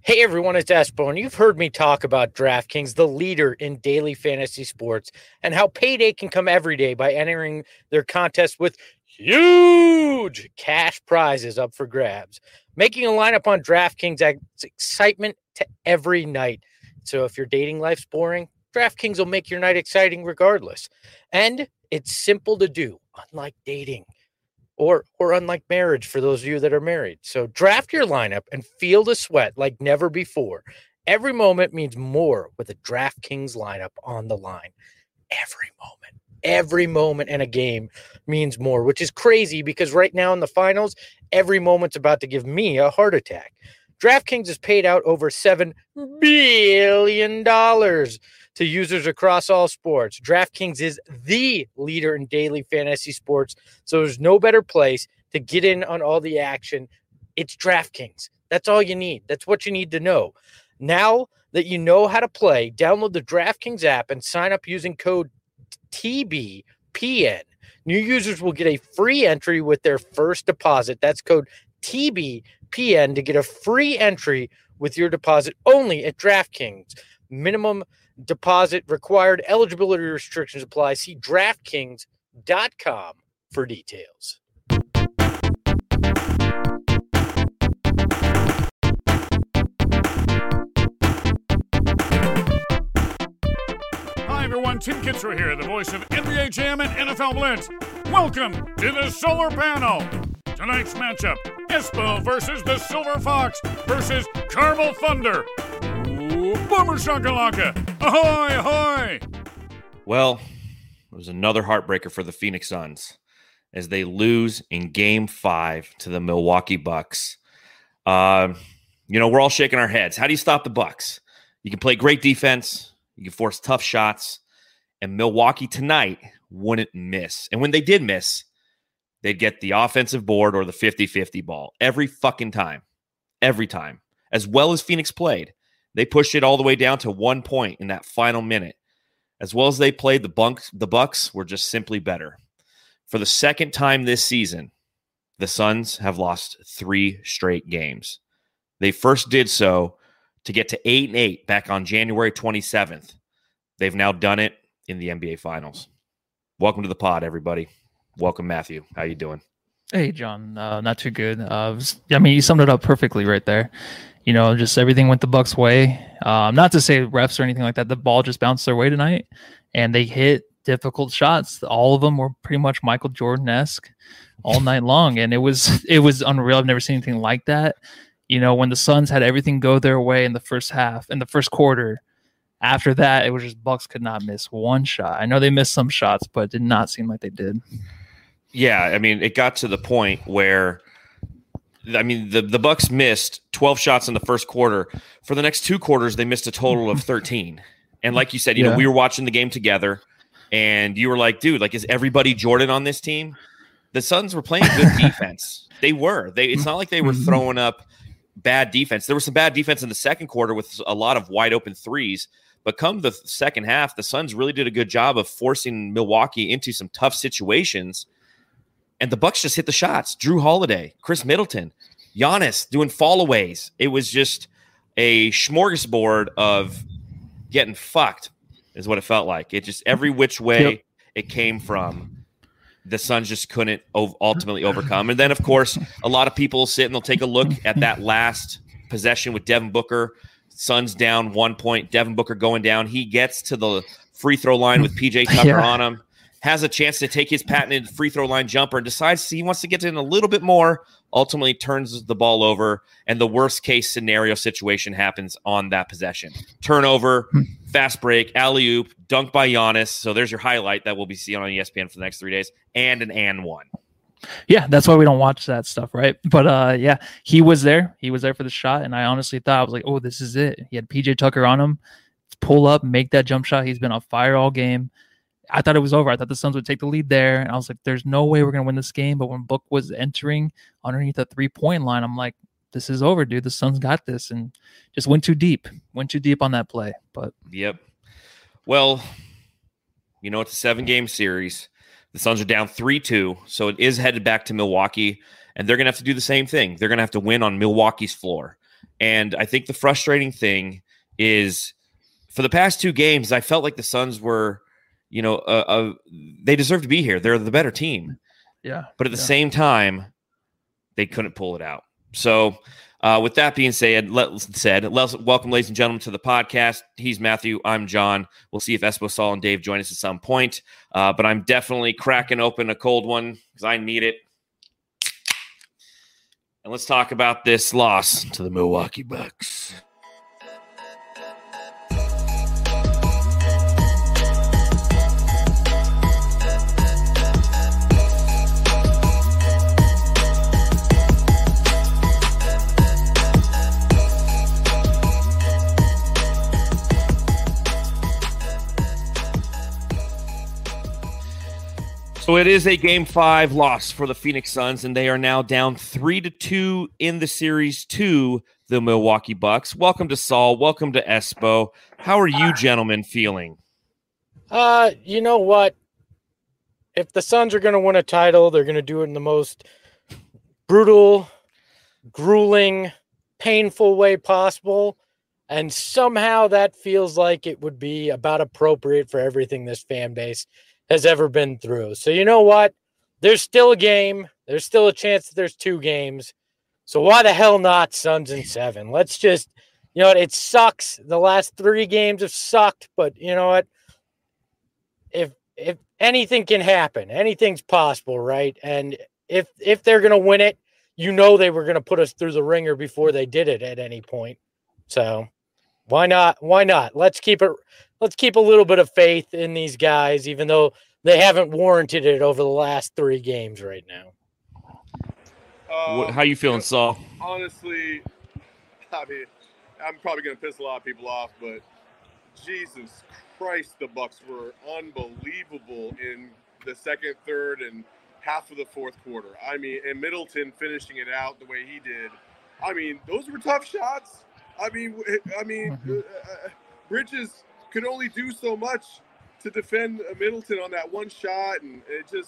Hey everyone, it's Espo. You've heard me talk about DraftKings, the leader in daily fantasy sports, and how payday can come every day by entering their contest with huge cash prizes up for grabs. Making a lineup on DraftKings adds excitement to every night. So if your dating life's boring, DraftKings will make your night exciting regardless. And it's simple to do, unlike dating. Or unlike marriage for those of you that are married. So draft your lineup and feel the sweat like never before. Every moment means more with a DraftKings lineup on the line. Every moment in a game means more, which is crazy because right now in the finals, every moment's about to give me a heart attack. DraftKings has paid out over $7 billion to users across all sports. DraftKings is the leader in daily fantasy sports, so there's no better place to get in on all the action. It's DraftKings. That's all you need. That's what you need to know. Now that you know how to play, download the DraftKings app and sign up using code TBPN. New users will get a free entry with their first deposit. That's code TBPN to get a free entry with your deposit only at DraftKings. Minimum deposit required. Eligibility restrictions apply. See DraftKings.com for details. Hi everyone, Tim Kitzrow here, the voice of NBA Jam and NFL Blitz. Welcome to the Solar Panel. Tonight's matchup, Espo versus the Silver Fox versus Caramel Thunder. Ooh, Boomer Shakalaka. Ahoy, ahoy! Well, it was another heartbreaker for the Phoenix Suns as they lose in Game 5 to the Milwaukee Bucks. We're all shaking our heads. How do you stop the Bucks? You can play great defense. You can force tough shots. And Milwaukee tonight wouldn't miss. And when they did miss, they'd get the offensive board or the 50-50 ball every fucking time. Every time. As well as Phoenix played. They pushed it all the way down to 1 point in that final minute. As well as they played, the Bucks were just simply better. For the second time this season, the Suns have lost 3 straight games. They first did so to get to 8-8 back on January 27th. They've now done it in the NBA Finals. Welcome to the pod, everybody. Welcome, Matthew. How you doing? Hey, John. Not too good. You summed it up perfectly right there. Just everything went the Bucks' way. Not to say refs or anything like that. The ball just bounced their way tonight, and they hit difficult shots. All of them were pretty much Michael Jordan-esque all night long, and it was unreal. I've never seen anything like that. When the Suns had everything go their way in the first half, in the first quarter, after that, it was just Bucks could not miss one shot. I know they missed some shots, but it did not seem like they did. Yeah, it got to the point where the Bucks missed 12 shots in the first quarter. For the next 2 quarters, they missed a total of 13. And like you said, we were watching the game together, and you were like, dude, is everybody Jordan on this team? The Suns were playing good defense. They were. It's not like they were throwing up bad defense. There was some bad defense in the second quarter with a lot of wide open threes. But come the second half, the Suns really did a good job of forcing Milwaukee into some tough situations. And the Bucks just hit the shots. Drew Holiday, Chris Middleton, Giannis doing fallaways. It was just a smorgasbord of getting fucked is what it felt like. It just every which way it came from, the Suns just couldn't ultimately overcome. And then, of course, a lot of people sit and they'll take a look at that last possession with Devin Booker. Suns down 1 point. Devin Booker going down. He gets to the free throw line with PJ Tucker on him. Has a chance to take his patented free throw line jumper and decides he wants to get in a little bit more, ultimately turns the ball over, and the worst case scenario situation happens on that possession. Turnover, fast break, alley-oop, dunk by Giannis. So there's your highlight that we'll be seeing on ESPN for the next 3 days, and an and one. Yeah, that's why we don't watch that stuff, right? But he was there. He was there for the shot, and I honestly thought, I was like, oh, this is it. He had PJ Tucker on him. Pull up, make that jump shot. He's been on fire all game. I thought it was over. I thought the Suns would take the lead there. And I was like, there's no way we're going to win this game. But when Book was entering underneath the 3-point line, I'm like, this is over, dude. The Suns got this. And just went too deep. Went too deep on that play. But yep. Well, it's a 7-game series. The Suns are down 3-2. So it is headed back to Milwaukee. And they're going to have to do the same thing. They're going to have to win on Milwaukee's floor. And I think the frustrating thing is for the past 2 games, I felt like the Suns were, they deserve to be here. They're the better team. Yeah. But at the same time, they couldn't pull it out. So with that being said, let's welcome, ladies and gentlemen, to the podcast. He's Matthew. I'm John. We'll see if Espo, Saul, and Dave join us at some point. But I'm definitely cracking open a cold one because I need it. And let's talk about this loss to the Milwaukee Bucks. So it is a Game 5 loss for the Phoenix Suns, and they are now down 3-2 in the series to the Milwaukee Bucks. Welcome to Saul. Welcome to Espo. How are you gentlemen feeling? You know what? If the Suns are going to win a title, they're going to do it in the most brutal, grueling, painful way possible. And somehow that feels like it would be about appropriate for everything this fan base has ever been through. So you know what? There's still a game. There's still a chance that there's 2 games. So why the hell not Suns in 7? Let's just, it sucks. The last 3 games have sucked, but you know what? If anything can happen, anything's possible, right? And if they're going to win it, they were going to put us through the ringer before they did it at any point. So why not? Why not? Let's keep a little bit of faith in these guys, even though they haven't warranted it over the last 3 games right now. How you feeling, Saul? Honestly, I mean, I'm probably going to piss a lot of people off, but Jesus Christ, the Bucks were unbelievable in the second, third, and half of the fourth quarter. I mean, and Middleton finishing it out the way he did. I mean, those were tough shots. Bridges could only do so much to defend Middleton on that one shot, and it just,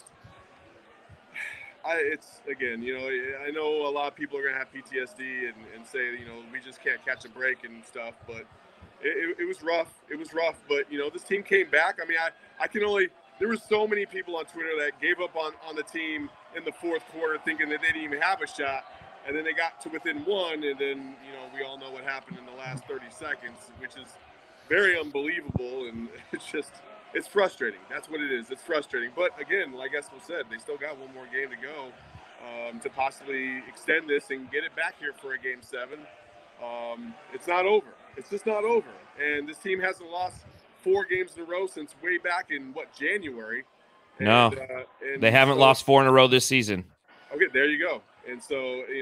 I know a lot of people are going to have PTSD and say, we just can't catch a break and stuff, but it was rough. It was rough, but, this team came back. I mean, there were so many people on Twitter that gave up on the team in the fourth quarter thinking that they didn't even have a shot. And then they got to within 1, and then, we all know what happened in the last 30 seconds, which is very unbelievable, and it's frustrating. That's what it is. It's frustrating. But, again, like Espo said, they still got 1 more game to go to possibly extend this and get it back here for a Game 7. It's not over. It's just not over. And this team hasn't lost 4 games in a row since way back in, January? No, they haven't lost 4 in a row this season. Okay, there you go. And so,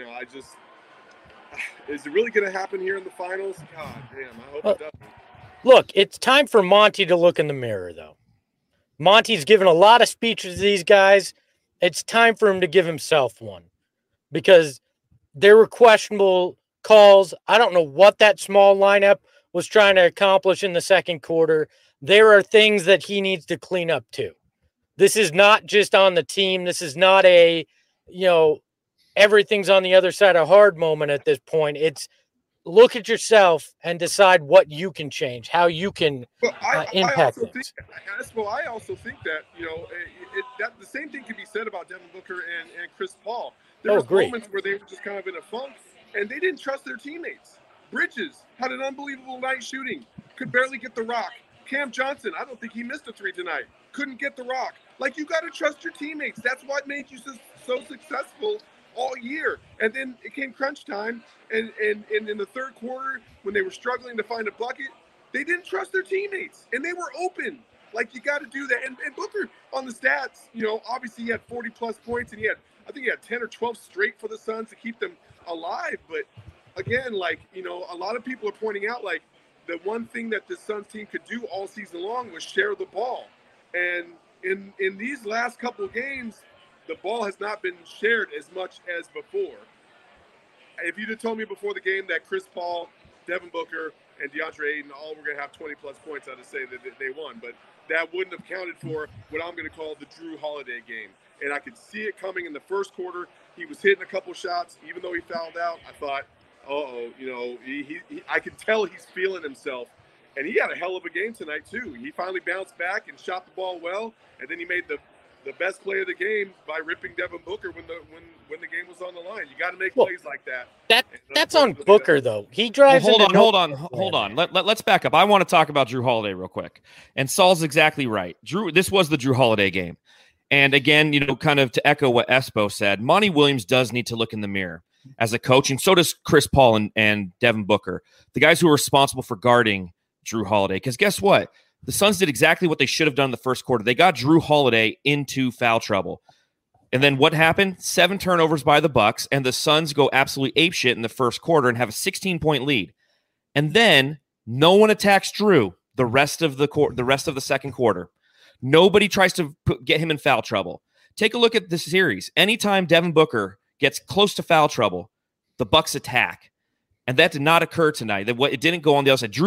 is it really going to happen here in the finals? God damn, I hope it doesn't. Look, it's time for Monty to look in the mirror, though. Monty's given a lot of speeches to these guys. It's time for him to give himself one because there were questionable calls. I don't know what that small lineup was trying to accomplish in the second quarter. There are things that he needs to clean up, too. This is not just on the team. This is not a, everything's on the other side of hard moment at this point. It's look at yourself and decide what you can change, how you can impact things. I also think that, that the same thing can be said about Devin Booker and Chris Paul. There were moments where they were just kind of in a funk, and they didn't trust their teammates. Bridges had an unbelievable night shooting, could barely get the rock. Cam Johnson, I don't think he missed a 3 tonight, couldn't get the rock. Like, you got to trust your teammates. That's what made you so successful all year. And then it came crunch time, and in the third quarter, when they were struggling to find a bucket, they didn't trust their teammates, and they were open. Like, you got to do that. And Booker, on the stats, obviously he had 40-plus points, and I think he had 10 or 12 straight for the Suns to keep them alive. But, again, a lot of people are pointing out, the one thing that the Suns team could do all season long was share the ball. And in these last couple of games, the ball has not been shared as much as before. If you'd have told me before the game that Chris Paul, Devin Booker, and DeAndre Ayton all were going to have 20-plus points, I'd have said that they won. But that wouldn't have counted for what I'm going to call the Drew Holiday game. And I could see it coming in the first quarter. He was hitting a couple shots. Even though he fouled out, I thought, I can tell he's feeling himself. And he had a hell of a game tonight, too. He finally bounced back and shot the ball well, and then he made the best play of the game by ripping Devin Booker when the game was on the line. You got to make plays like that. That's on Booker, though. He drives. Hold on. Let's back up. I want to talk about Jrue Holiday real quick. And Saul's exactly right. This was the Jrue Holiday game. And again, kind of to echo what Espo said, Monty Williams does need to look in the mirror as a coach, and so does Chris Paul and Devin Booker, the guys who are responsible for guarding Jrue Holiday. Because guess what? The Suns did exactly what they should have done in the first quarter. They got Jrue Holiday into foul trouble. And then what happened? 7 turnovers by the Bucks, and the Suns go absolutely apeshit in the first quarter and have a 16-point lead. And then no one attacks Jrue the rest of the second quarter. Nobody tries to get him in foul trouble. Take a look at this series. Anytime Devin Booker gets close to foul trouble, the Bucks attack. And that did not occur tonight. It didn't go on the other side.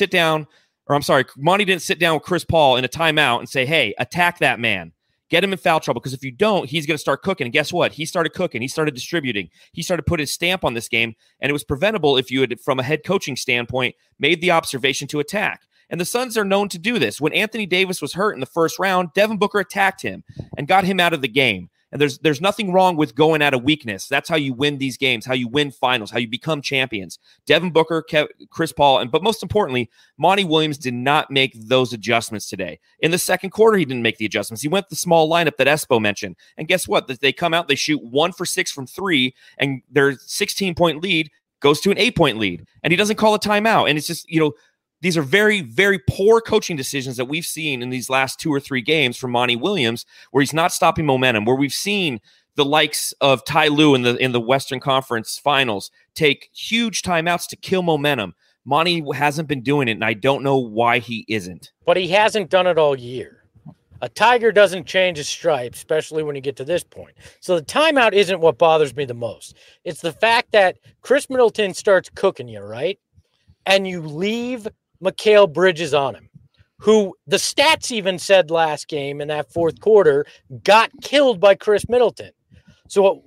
Monty didn't sit down with Chris Paul in a timeout and say, hey, attack that man. Get him in foul trouble, because if you don't, he's going to start cooking. And guess what? He started cooking. He started distributing. He started putting his stamp on this game, and it was preventable if you had, from a head coaching standpoint, made the observation to attack. And the Suns are known to do this. When Anthony Davis was hurt in the first round, Devin Booker attacked him and got him out of the game. And there's nothing wrong with going at a weakness. That's how you win these games, how you win finals, how you become champions. Devin Booker, Chris Paul, but most importantly, Monty Williams did not make those adjustments today. In the second quarter, he didn't make the adjustments. He went the small lineup that Espo mentioned. And guess what? They come out, they shoot 1 for 6 from 3, and their 16-point lead goes to an 8-point lead. And he doesn't call a timeout. And it's just, these are very, very poor coaching decisions that we've seen in these last 2 or 3 games from Monty Williams, where he's not stopping momentum, where we've seen the likes of Ty Lue in the Western Conference Finals take huge timeouts to kill momentum. Monty hasn't been doing it, and I don't know why he isn't. But he hasn't done it all year. A tiger doesn't change his stripes, especially when you get to this point. So the timeout isn't what bothers me the most. It's the fact that Chris Middleton starts cooking you, right? And you leave Mikal Bridges on him, who the stats even said last game in that fourth quarter got killed by Chris Middleton. So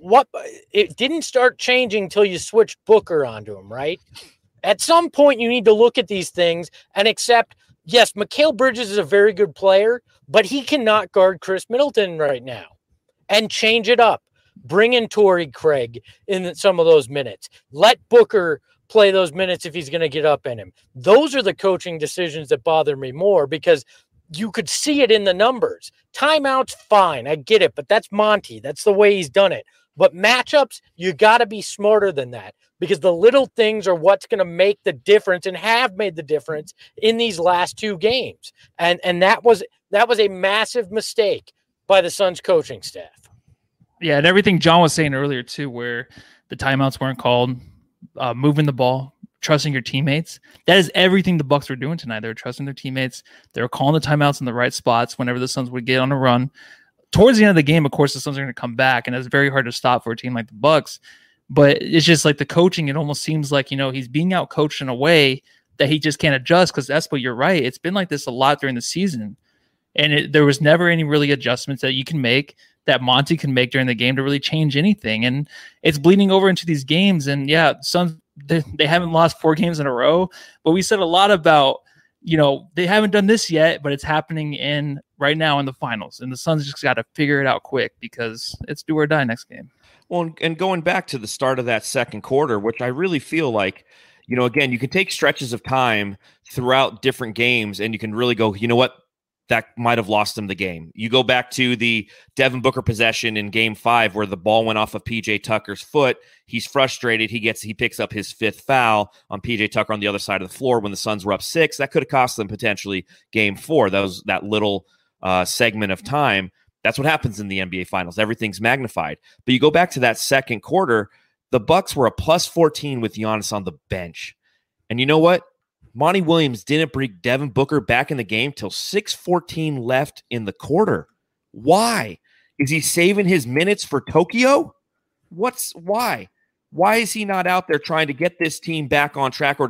it didn't start changing until you switched Booker onto him, right? At some point, you need to look at these things and accept, yes, Mikal Bridges is a very good player, but he cannot guard Chris Middleton right now, and change it up. Bring in Torrey Craig in some of those minutes. Let Booker play those minutes if he's going to get up in him. Those are the coaching decisions that bother me more, because you could see it in the numbers. Timeouts, fine, I get it, but that's Monty. That's the way he's done it. But matchups, you got to be smarter than that, because the little things are what's going to make the difference and have made the difference in these last 2 games. And that was a massive mistake by the Suns coaching staff. Yeah, and everything John was saying earlier too, where the timeouts weren't called, moving the ball, trusting your teammates. That is everything the Bucks were doing tonight. They were trusting their teammates. They were calling the timeouts in the right spots whenever the Suns would get on a run. Towards the end of the game, of course, the Suns are going to come back, and it's very hard to stop for a team like the Bucks. But it's just like the coaching, it almost seems like, he's being out coached in a way that he just can't adjust, because Espo, you're right. It's been like this a lot during the season. And there was never any really adjustments that you can make, that Monty can make during the game to really change anything. And it's bleeding over into these games. And yeah, Suns, they haven't lost 4 games in a row, but we said a lot about, they haven't done this yet, but it's happening right now in the finals. And the Suns just got to figure it out quick, because it's do or die next game. Well, and going back to the start of that second quarter, which I really feel like, again, you can take stretches of time throughout different games and you can really go, what? That might have lost them the game. You go back to the Devin Booker possession in Game 5 where the ball went off of PJ Tucker's foot. He's frustrated. He picks up his 5th foul on PJ Tucker on the other side of the floor when the Suns were up 6. That could have cost them potentially Game 4. That little segment of time. That's what happens in the NBA Finals. Everything's magnified. But you go back to that second quarter, the Bucks were a plus 14 with Giannis on the bench. And you know what? Monty Williams didn't bring Devin Booker back in the game till 6:14 left in the quarter. Why? Is he saving his minutes for Tokyo? Why? Why is he not out there trying to get this team back on track, or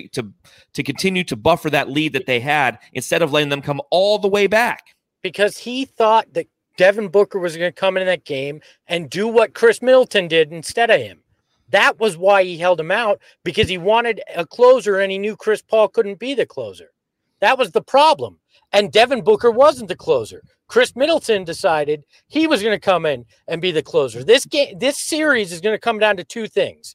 to continue to buffer that lead that they had, instead of letting them come all the way back? Because he thought that Devin Booker was going to come in that game and do what Chris Middleton did instead of him. That was why he held him out, because he wanted a closer and he knew Chris Paul couldn't be the closer. That was the problem. And Devin Booker wasn't the closer. Chris Middleton decided he was going to come in and be the closer. This series is going to come down to two things.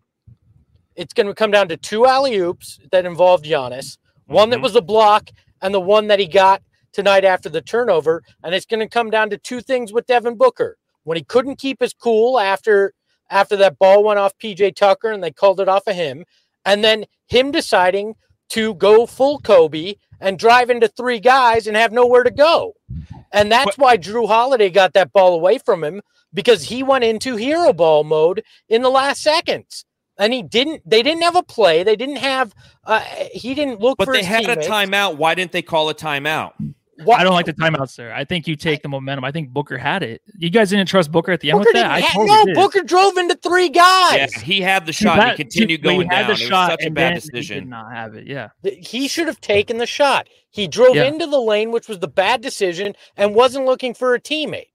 It's going to come down to two alley-oops that involved Giannis, one that was a block and the one that he got tonight after the turnover. And it's going to come down to two things with Devin Booker. When he couldn't keep his cool after that ball went off PJ Tucker and they called it off of him, and then him deciding to go full Kobe and drive into three guys and have nowhere to go. And that's why Jrue Holiday got that ball away from him, because he went into hero ball mode in the last seconds. And they didn't have a play. They didn't have, he didn't look for his teammates. But they had a timeout. Why didn't they call a timeout? I don't like the timeout, sir. I think you take the momentum. I think Booker had it. You guys didn't trust Booker at the end with that? Booker drove into three guys. Yeah, he had the shot and he continued going down. It was such a bad decision. He did not have it, yeah. He should have taken the shot. He drove into the lane, which was the bad decision, and wasn't looking for a teammate.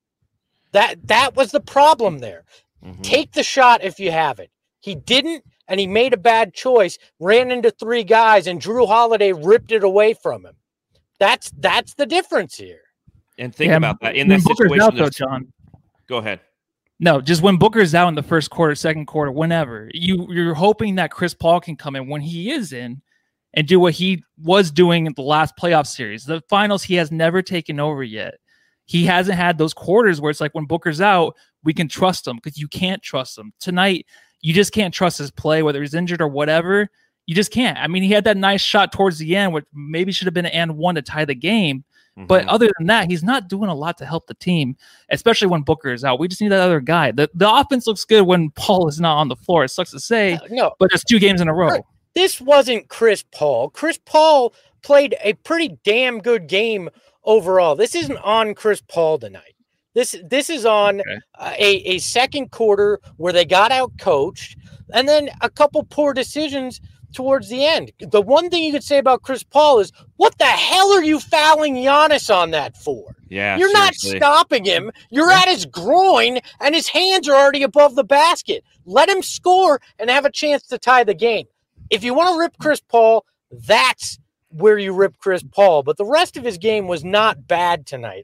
That was the problem there. Mm-hmm. Take the shot if you have it. He didn't, and he made a bad choice, ran into three guys, and Jrue Holiday ripped it away from him. That's the difference here. And think about that. In that situation, out, though, John. Go ahead. No, just when Booker's out in the first quarter, second quarter, whenever, you're hoping that Chris Paul can come in when he is in and do what he was doing in the last playoff series. The finals, he has never taken over yet. He hasn't had those quarters where it's like when Booker's out, we can trust him, because you can't trust him. Tonight, you just can't trust his play, whether he's injured or whatever. You just can't. I mean, he had that nice shot towards the end, which maybe should have been an and one to tie the game. Mm-hmm. But other than that, he's not doing a lot to help the team, especially when Booker is out. We just need that other guy. The offense looks good when Paul is not on the floor. It sucks to say, but it's 2 games in a row. This wasn't Chris Paul. Chris Paul played a pretty damn good game overall. This isn't on Chris Paul tonight. This is on a second quarter where they got out coached, and then a couple poor decisions towards the end. The one thing you could say about Chris Paul is, what the hell are you fouling Giannis on that for? Yeah, you're not stopping him. You're at his groin, and his hands are already above the basket. Let him score and have a chance to tie the game. If you want to rip Chris Paul, that's where you rip Chris Paul. But the rest of his game was not bad tonight.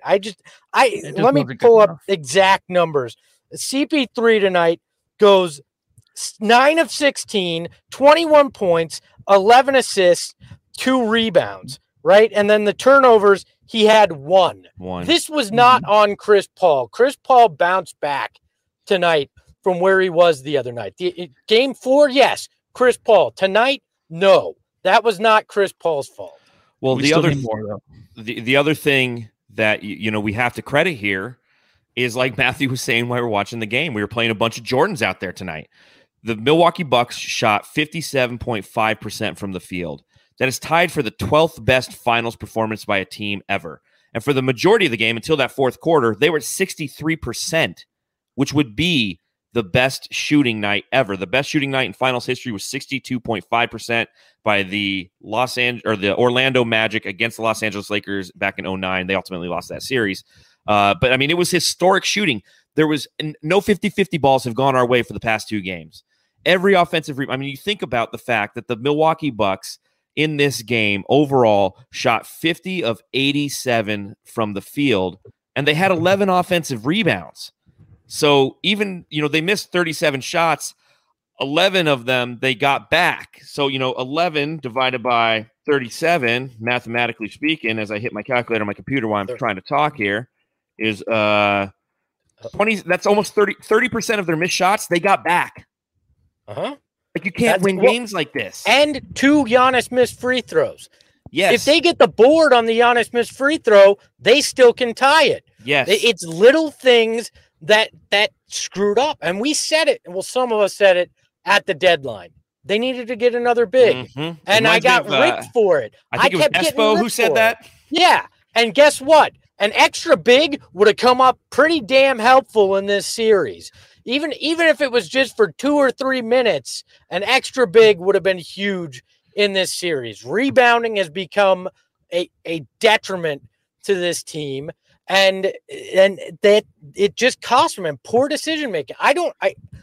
Let me pull up exact numbers. CP3 tonight goes 9 of 16, 21 points, 11 assists, 2 rebounds, right? And then the turnovers, he had one. This was not on Chris Paul. Chris Paul bounced back tonight from where he was the other night. Game 4, yes, Chris Paul. Tonight, no. That was not Chris Paul's fault. Well, the other thing that we have to credit here is, like Matthew was saying while we were watching the game, we were playing a bunch of Jordans out there tonight. The Milwaukee Bucks shot 57.5% from the field. That is tied for the 12th best finals performance by a team ever. And for the majority of the game, until that fourth quarter, they were at 63%, which would be the best shooting night ever. The best shooting night in finals history was 62.5% by the Orlando Magic against the Los Angeles Lakers back in 2009. They ultimately lost that series. But I mean, it was historic shooting. There was no 50-50 balls have gone our way for the past 2 games. Every offensive you think about the fact that the Milwaukee Bucks in this game overall shot 50 of 87 from the field, and they had 11 offensive rebounds. So even, they missed 37 shots, 11 of them they got back. So, 11 divided by 37, mathematically speaking, as I hit my calculator on my computer while I'm trying to talk here, is 20. That's almost 30% of their missed shots they got back. Like, you can't win games like this. And 2 Giannis missed free throws. Yes. If they get the board on the Giannis missed free throw, they still can tie it. Yes. It's little things that screwed up. And we said it. Well, some of us said it at the deadline. They needed to get another big. Mm-hmm. And I got ripped for it. I think it was Espo who said that. Yeah. And guess what? An extra big would have come up pretty damn helpful in this series. Even if it was just for 2 or 3 minutes, an extra big would have been huge in this series. Rebounding has become a detriment to this team, and that it just cost them. And poor decision making.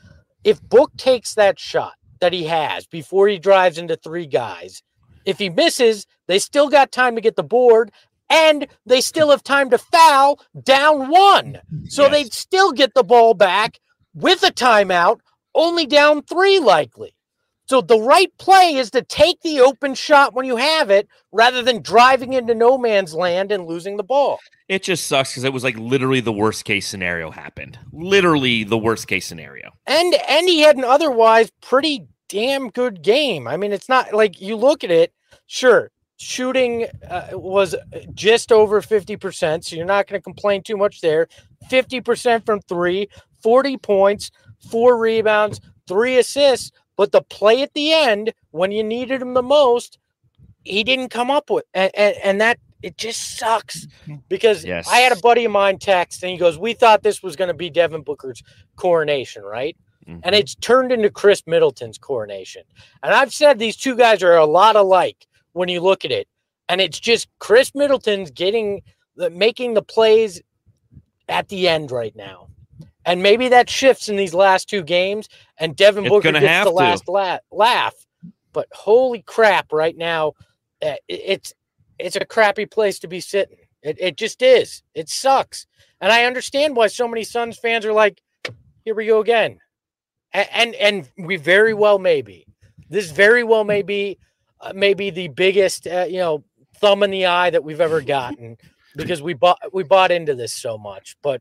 if Book takes that shot that he has before he drives into 3 guys, if he misses, they still got time to get the board, and they still have time to foul down 1. So they'd still get the ball back with a timeout, only down 3 likely. So the right play is to take the open shot when you have it rather than driving into no man's land and losing the ball. It just sucks because it was like literally the worst case scenario happened. Literally the worst case scenario. And he had an otherwise pretty damn good game. I mean, it's not like you look at it, sure, shooting was just over 50%, so you're not going to complain too much there. 50% from 3, 40 points, 4 rebounds, 3 assists. But the play at the end, when you needed him the most, he didn't come up with. And that, it just sucks. Because I had a buddy of mine text, and he goes, we thought this was going to be Devin Booker's coronation, right? Mm-hmm. And it's turned into Chris Middleton's coronation. And I've said these two guys are a lot alike when you look at it. And it's just Chris Middleton's making the plays at the end right now. And maybe that shifts in these last 2 games, and Devin Booker gets the last laugh. But holy crap, right now, it's a crappy place to be sitting. It just is. It sucks. And I understand why so many Suns fans are like, here we go again. And we very well may be. This very well may be maybe the biggest thumb in the eye that we've ever gotten because we bought into this so much. But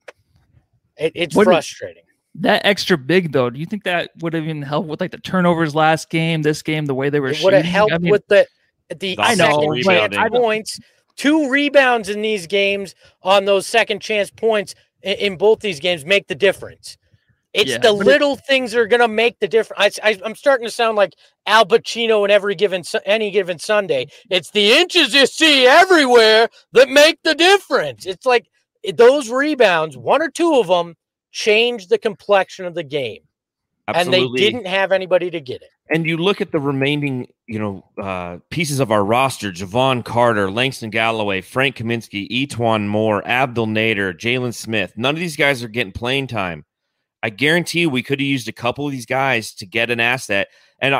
it's frustrating. That extra big, though, do you think that would have even helped with like the turnovers last game, this game, the way they were shooting? Would have helped with the second chance points. 2 rebounds in these games on those second chance points in both these games make the difference. It's the little things that are going to make the difference. I'm starting to sound like Al Pacino in any given Sunday. It's the inches you see everywhere that make the difference. It's like those rebounds, 1 or 2 of them, changed the complexion of the game. Absolutely. And they didn't have anybody to get it. And you look at the remaining, pieces of our roster: Javon Carter, Langston Galloway, Frank Kaminsky, Etuan Moore, Abdel Nader, Jalen Smith. None of these guys are getting playing time. I guarantee you we could have used a couple of these guys to get an asset. And,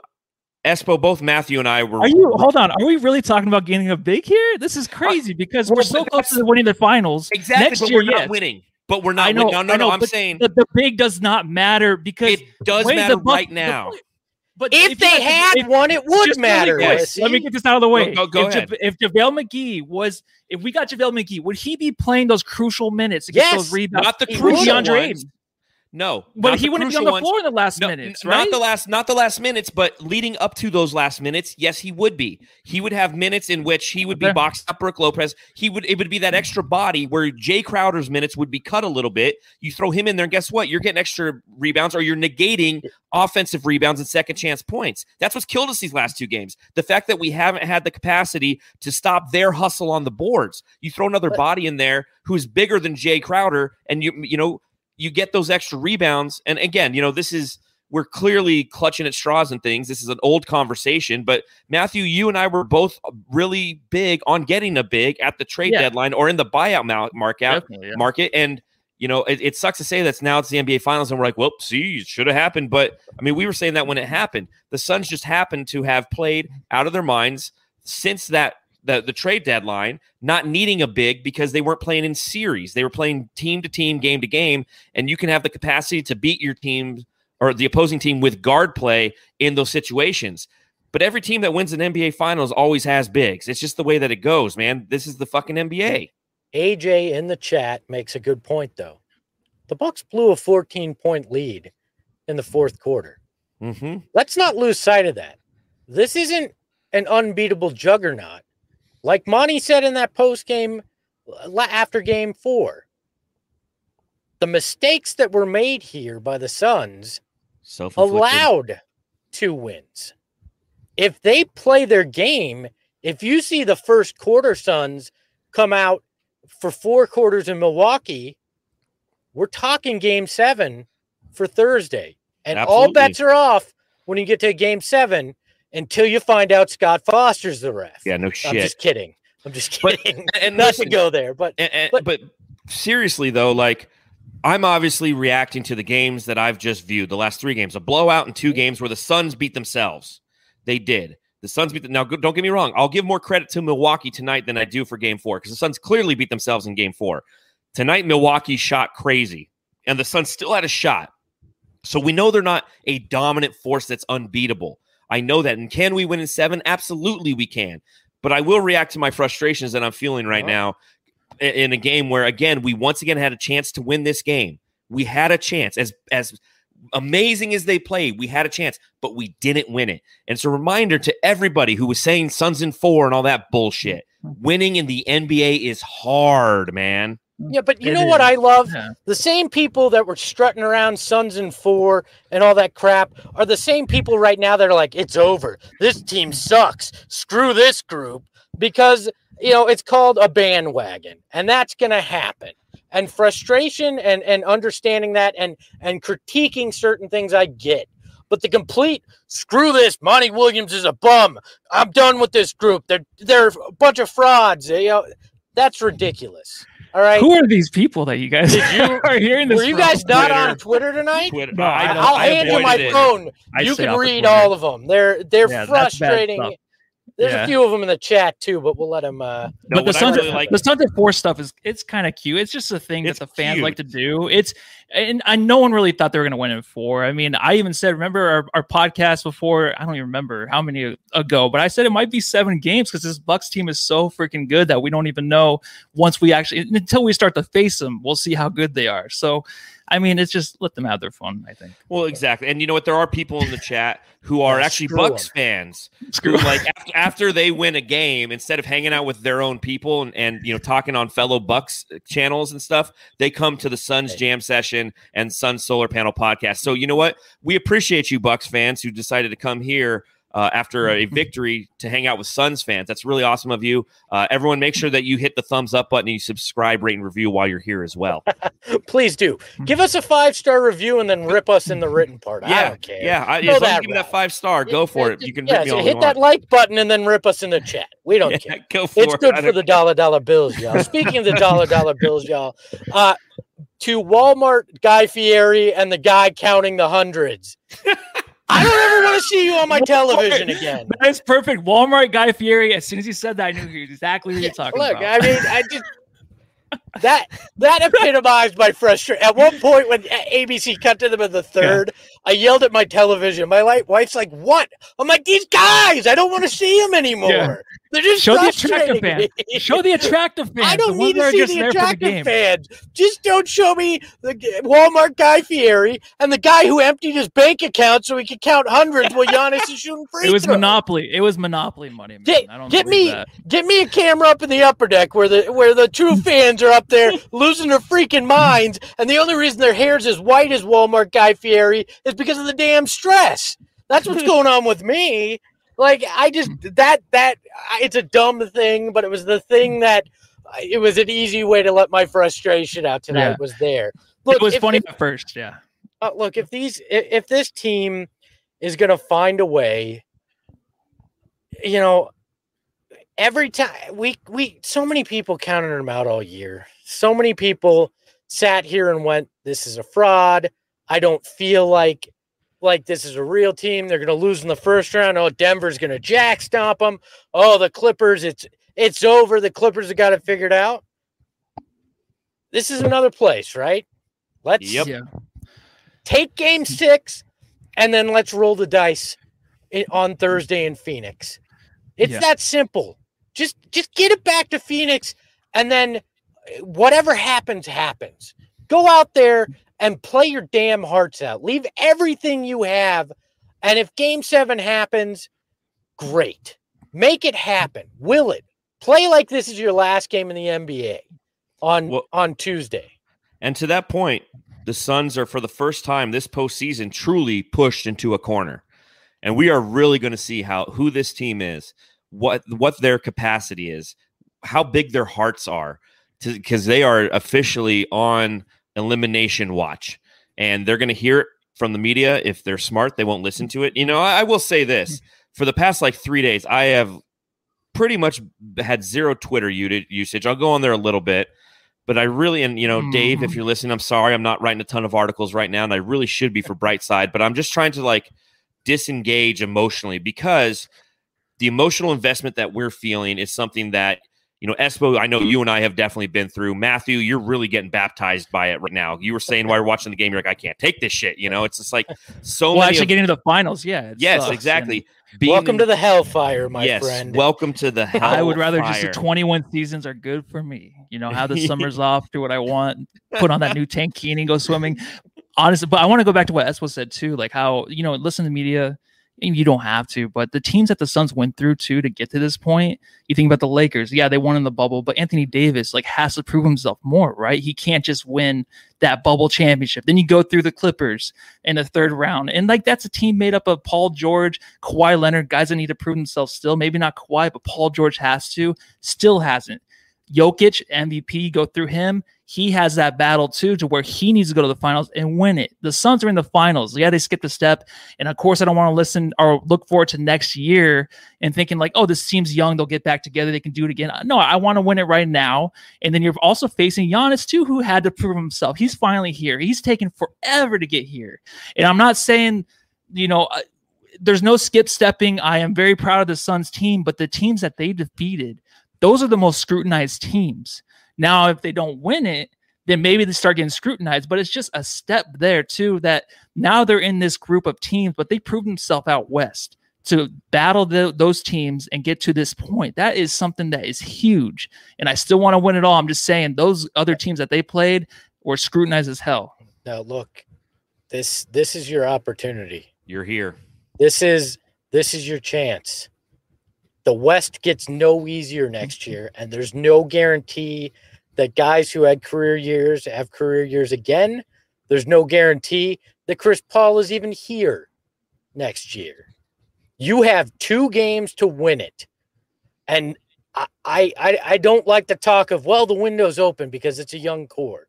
Espo, both Matthew and I were. Hold on. Are we really talking about getting a big here? This is crazy because we're so close to winning the finals. Exactly. Next but year, we're not winning. But we're not winning. No. I'm saying the big does not matter because it does matter right now. But if they had one, it would matter. Let me get this out of the way. Go ahead. If JaVale McGee if we got JaVale McGee, would he be playing those crucial minutes to get those rebounds? Not the crucial ones. No, but he wouldn't be on the floor in the last minutes, right? Not the last minutes, but leading up to those last minutes, yes, he would be. He would have minutes in which he would be boxed up Brook Lopez. It would be that extra body where Jay Crowder's minutes would be cut a little bit. You throw him in there, and guess what? You're getting extra rebounds, or you're negating offensive rebounds and second chance points. That's what's killed us these last 2 games. The fact that we haven't had the capacity to stop their hustle on the boards. You throw another body in there who's bigger than Jay Crowder, and you get those extra rebounds. And again, we're clearly clutching at straws and things. This is an old conversation, but Matthew, you and I were both really big on getting a big at the trade deadline or in the buyout market. And, it sucks to say that now it's the NBA Finals and we're like, well, see, it should have happened. But I mean, we were saying that when it happened. The Suns just happened to have played out of their minds since the trade deadline, not needing a big because they weren't playing in series. They were playing team to team, game to game, and you can have the capacity to beat your team or the opposing team with guard play in those situations. But every team that wins an NBA Finals always has bigs. It's just the way that it goes, man. This is the fucking NBA. AJ in the chat makes a good point, though. The Bucks blew a 14-point lead in the 4th quarter. Mm-hmm. Let's not lose sight of that. This isn't an unbeatable juggernaut. Like Monty said in that post game after game 4, the mistakes that were made here by the Suns allowed 2 wins. If they play their game, if you see the first quarter Suns come out for 4 quarters in Milwaukee, we're talking game 7 for Thursday. And all bets are off when you get to game 7. Until you find out Scott Foster's the ref. Yeah, no shit. I'm just kidding. And not to go there, but seriously though, like I'm obviously reacting to the games that I've just viewed, the last 3 games, a blowout and 2 games where the Suns beat themselves. They did. The Suns beat them. Now, don't get me wrong. I'll give more credit to Milwaukee tonight than I do for Game 4 because the Suns clearly beat themselves in Game 4. Tonight, Milwaukee shot crazy, and the Suns still had a shot. So we know they're not a dominant force that's unbeatable. I know that. And can we win in 7? Absolutely we can. But I will react to my frustrations that I'm feeling right now in a game where, again, we once again had a chance to win this game. We had a chance. As amazing as they played, we had a chance, but we didn't win it. And it's a reminder to everybody who was saying Suns in 4 and all that bullshit. Winning in the NBA is hard, man. Yeah, but you know what I love? Yeah. The same people that were strutting around Suns in 4 and all that crap are the same people right now that are like, it's over. This team sucks. Screw this group. Because, it's called a bandwagon, and that's going to happen. And frustration and understanding that and critiquing certain things I get. But the complete, screw this, Monty Williams is a bum. I'm done with this group. They're a bunch of frauds. That's ridiculous. All right. Who are these people that you guys are hearing this? Were you guys not on Twitter tonight? Twitter. No, I'll hand you my phone. You can read all of them. They're frustrating. There's a few of them in the chat too, but we'll let them. But the Suns at 4 stuff it's kind of cute. It's just a thing that the fans like to do. And no one really thought they were going to win in 4. I mean, I even said, remember our podcast before? I don't even remember how many ago, but I said it might be 7 games because this Bucks team is so freaking good that we don't even know until we start to face them, we'll see how good they are. So. I mean, it's just let them have their fun, I think. Well, exactly. And you know what? There are people in the chat who are actually Bucks fans who, like, after they win a game, instead of hanging out with their own people and talking on fellow Bucks channels and stuff, they come to the Suns Jam Session and Suns Solar Panel podcast. So you know what? We appreciate you, Bucks fans, who decided to come here after a victory to hang out with Suns fans. That's really awesome of you. Everyone, make sure that you hit the thumbs up button and you subscribe, rate, and review while you're here as well. Please do. Give us a 5-star review and then rip us in the written part. I don't care. Yeah, as long as you give me that 5-star, go for it. You can rip me all hit that like button and then rip us in the chat. We don't care. Go for it's good for the dollar bills, y'all. Speaking of the dollar bills, y'all, to Walmart Guy Fieri and the guy counting the hundreds. I don't ever want to see you on my television again. That's perfect. Walmart Guy Fieri. As soon as you said that, I knew exactly what you're talking about. Look, I mean, I just that epitomized my frustration. At one point, when ABC cut to them in the third, I yelled at my television. My wife's like, "What?" I'm like, "These guys, I don't want to see them anymore. Yeah. They're just show the attractive fans. Show the attractive fans. I don't need to see the attractive fans. Just don't show me the Walmart Guy Fieri and the guy who emptied his bank account so he could count hundreds while Giannis is shooting free throws. It was Monopoly. It was Monopoly money, man. Get me a camera up in the upper deck where the true fans are up there losing their freaking minds, and the only reason their hair's as white as Walmart Guy Fieri is because of the damn stress. That's what's going on with me. Like, I just, it's a dumb thing, but it was the thing that, it was an easy way to let my frustration out tonight was there. Look, it was funny at first, yeah. Look, if this team is going to find a way, every time, so many people counted them out all year. So many people sat here and went, this is a fraud. I don't feel like this is a real team. They're going to lose in the first round. Oh, Denver's going to jack stomp them. Oh, the Clippers, it's over. The Clippers have got it figured out. This is another place, right? Let's take game 6 and then let's roll the dice on Thursday in Phoenix. It's that simple. Just get it back to Phoenix, and then whatever happens, happens. Go out there and play your damn hearts out. Leave everything you have. And if game 7 happens, great. Make it happen. Will it? Play like this is your last game in the NBA on Tuesday. And to that point, the Suns are, for the first time this postseason, truly pushed into a corner. And we are really going to see who this team is, what their capacity is, how big their hearts are, because they are officially on elimination watch, and they're going to hear it from the media. If they're smart, they won't listen to it. I will say this: for the past 3 days, I have pretty much had zero Twitter usage. I'll go on there a little bit, But I really, and Dave, if you're listening, I'm sorry, I'm not writing a ton of articles right now, and I really should be for Brightside, but I'm just trying to like disengage emotionally, because the emotional investment that we're feeling is something that, Espo, I know you and I have definitely been through. Matthew, you're really getting baptized by it right now. You were saying while you're watching the game, you're like, I can't take this shit. It's just like actually getting to the finals. Yeah. Yes, sucks, exactly. Welcome to the hellfire, my friend. Welcome to the hellfire. I would rather just the 21 seasons are good for me. Have the summers off, do what I want, put on that new tankini, go swimming. Honestly, but I want to go back to what Espo said too, like how, listen to media. You don't have to, but the teams that the Suns went through too to get to this point, you think about the Lakers. Yeah, they won in the bubble, but Anthony Davis has to prove himself more, right? He can't just win that bubble championship. Then you go through the Clippers in the third round. And that's a team made up of Paul George, Kawhi Leonard, guys that need to prove themselves still. Maybe not Kawhi, but Paul George still hasn't. Jokic, MVP, go through him. He has that battle too, to where he needs to go to the finals and win it. The Suns are in the finals. Yeah, they skipped a step. And of course, I don't want to listen or look forward to next year and thinking like, oh, this team's young. They'll get back together. They can do it again. No, I want to win it right now. And then you're also facing Giannis too, who had to prove himself. He's finally here. He's taken forever to get here. And I'm not saying, there's no skip stepping. I am very proud of the Suns team, but the teams that they defeated, those are the most scrutinized teams. Now, if they don't win it, then maybe they start getting scrutinized. But it's just a step there, too, that now they're in this group of teams, but they proved themselves out west to battle those teams and get to this point. That is something that is huge. And I still want to win it all. I'm just saying those other teams that they played were scrutinized as hell. Now, look, this is your opportunity. You're here. This is your chance. The West gets no easier next year, and there's no guarantee that guys who had career years have career years again. There's no guarantee that Chris Paul is even here next year. You have 2 games to win it. And I don't like the talk of, well, the window's open because it's a young core.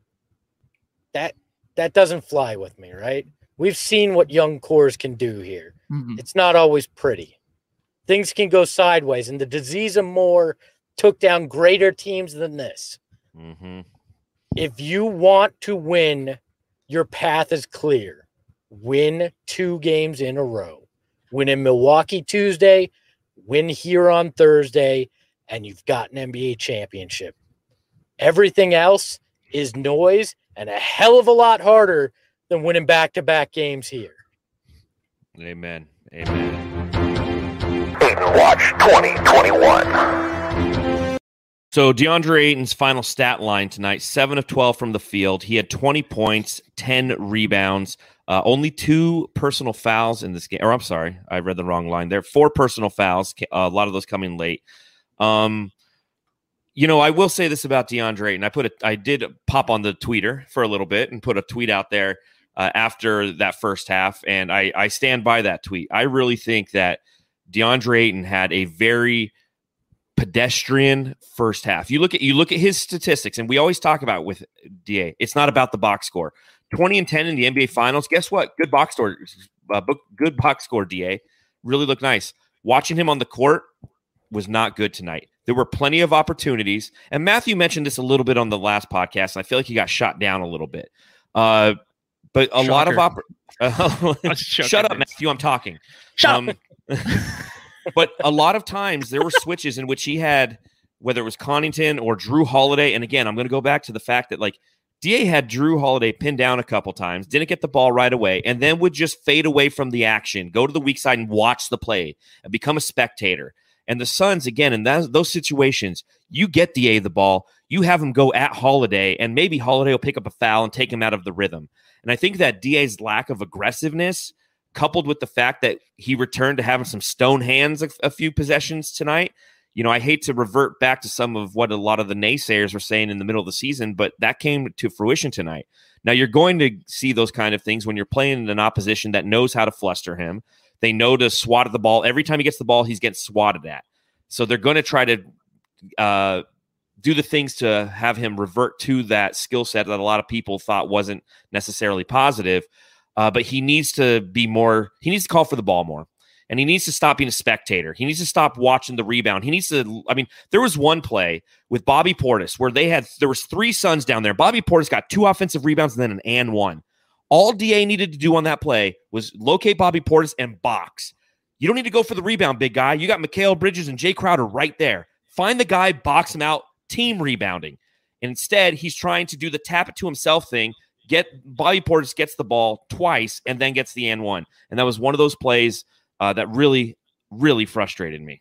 That doesn't fly with me, right? We've seen what young cores can do here. Mm-hmm. It's not always pretty. Things can go sideways, and the disease of more took down greater teams than this. Mm-hmm. If you want to win, your path is clear. Win 2 games in a row. Win in Milwaukee Tuesday, win here on Thursday, and you've got an NBA championship. Everything else is noise and a hell of a lot harder than winning back-to-back games here. Amen. Amen. Watch 2021. So DeAndre Ayton's final stat line tonight, 7 of 12 from the field. He had 20 points, 10 rebounds, only 2 personal fouls in this game. Or I'm sorry, I read the wrong line there. 4 personal fouls, a lot of those coming late. I will say this about DeAndre Ayton. I did pop on the tweeter for a little bit and put a tweet out there after that first half, and I stand by that tweet. I really think that DeAndre Ayton had a very pedestrian first half. You look at his statistics, and we always talk about with DA, it's not about the box score. 20 and 10 in the NBA Finals. Guess what? Good box score. Good box score. DA really looked nice. Watching him on the court was not good tonight. There were plenty of opportunities, and Matthew mentioned this a little bit on the last podcast. And I feel like he got shot down a little bit. But a lot of shut up, Matthew. I'm talking. Shut up. But a lot of times there were switches in which he had, whether it was Connaughton or Drew Holiday. And again, I'm going to go back to the fact that DA had Drew Holiday pinned down a couple times, didn't get the ball right away, and then would just fade away from the action, go to the weak side and watch the play and become a spectator. And the Suns, again, in those situations, you get DA the ball, you have him go at Holiday, and maybe Holiday will pick up a foul and take him out of the rhythm. And I think that DA's lack of aggressiveness, coupled with the fact that he returned to having some stone hands a few possessions tonight. I hate to revert back to some of what a lot of the naysayers were saying in the middle of the season, but that came to fruition tonight. Now, you're going to see those kind of things when you're playing an opposition that knows how to fluster him. They know to swat at the ball. Every time he gets the ball, he's getting swatted at. So they're going to try to do the things to have him revert to that skill set that a lot of people thought wasn't necessarily positive. But he needs to be more. He needs to call for the ball more. and he needs to stop being a spectator. He needs to stop watching the rebound. He needs to, I mean, there was one play with Bobby Portis where there was 3 Suns down there. Bobby Portis got 2 offensive rebounds and then an and one. All DA needed to do on that play was locate Bobby Portis and box. You don't need to go for the rebound, big guy. You got Mikal Bridges and Jay Crowder right there. Find the guy, box him out, team rebounding. And instead, he's trying to do the tap it to himself thing. Bobby Portis gets the ball twice and then gets the and one. And that was one of those plays that really, really frustrated me.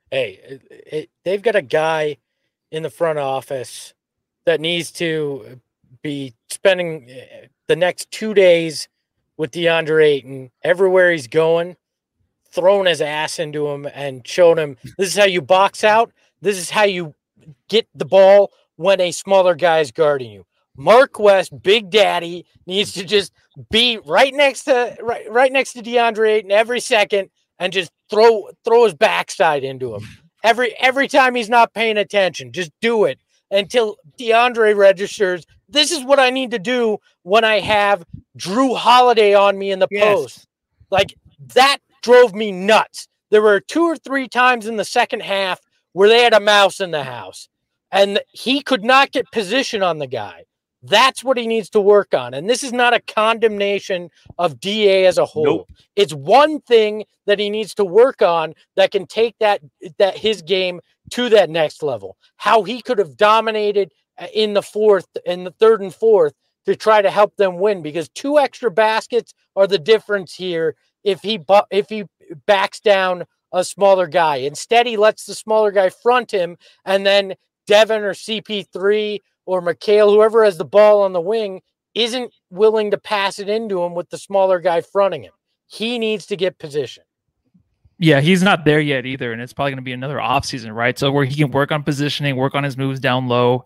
Hey, they've got a guy in the front office that needs to be spending the next 2 days with DeAndre Ayton everywhere he's going, throwing his ass into him and showing him this is how you box out. This is how you get the ball when a smaller guy is guarding you. Mark West, Big Daddy, needs to just be right next to DeAndre Ayton every second and just throw his backside into him. Every time he's not paying attention, just do it until DeAndre registers. This is what I need to do when I have Drew Holiday on me in the post. Like, that drove me nuts. There were 2 or 3 times in the second half where they had a mouse in the house, and he could not get position on the guy. That's what he needs to work on. And this is not a condemnation of DA as a whole. Nope. It's one thing that he needs to work on that can take that his game to that next level. How he could have dominated in the 3rd and 4th to try to help them win, because 2 extra baskets are the difference here if he backs down a smaller guy. Instead, he lets the smaller guy front him, and then Devin or CP3 or Mikal, whoever has the ball on the wing, isn't willing to pass it into him with the smaller guy fronting him. He needs to get position. Yeah, he's not there yet either, and it's probably going to be another offseason, right? So where he can work on positioning, work on his moves down low.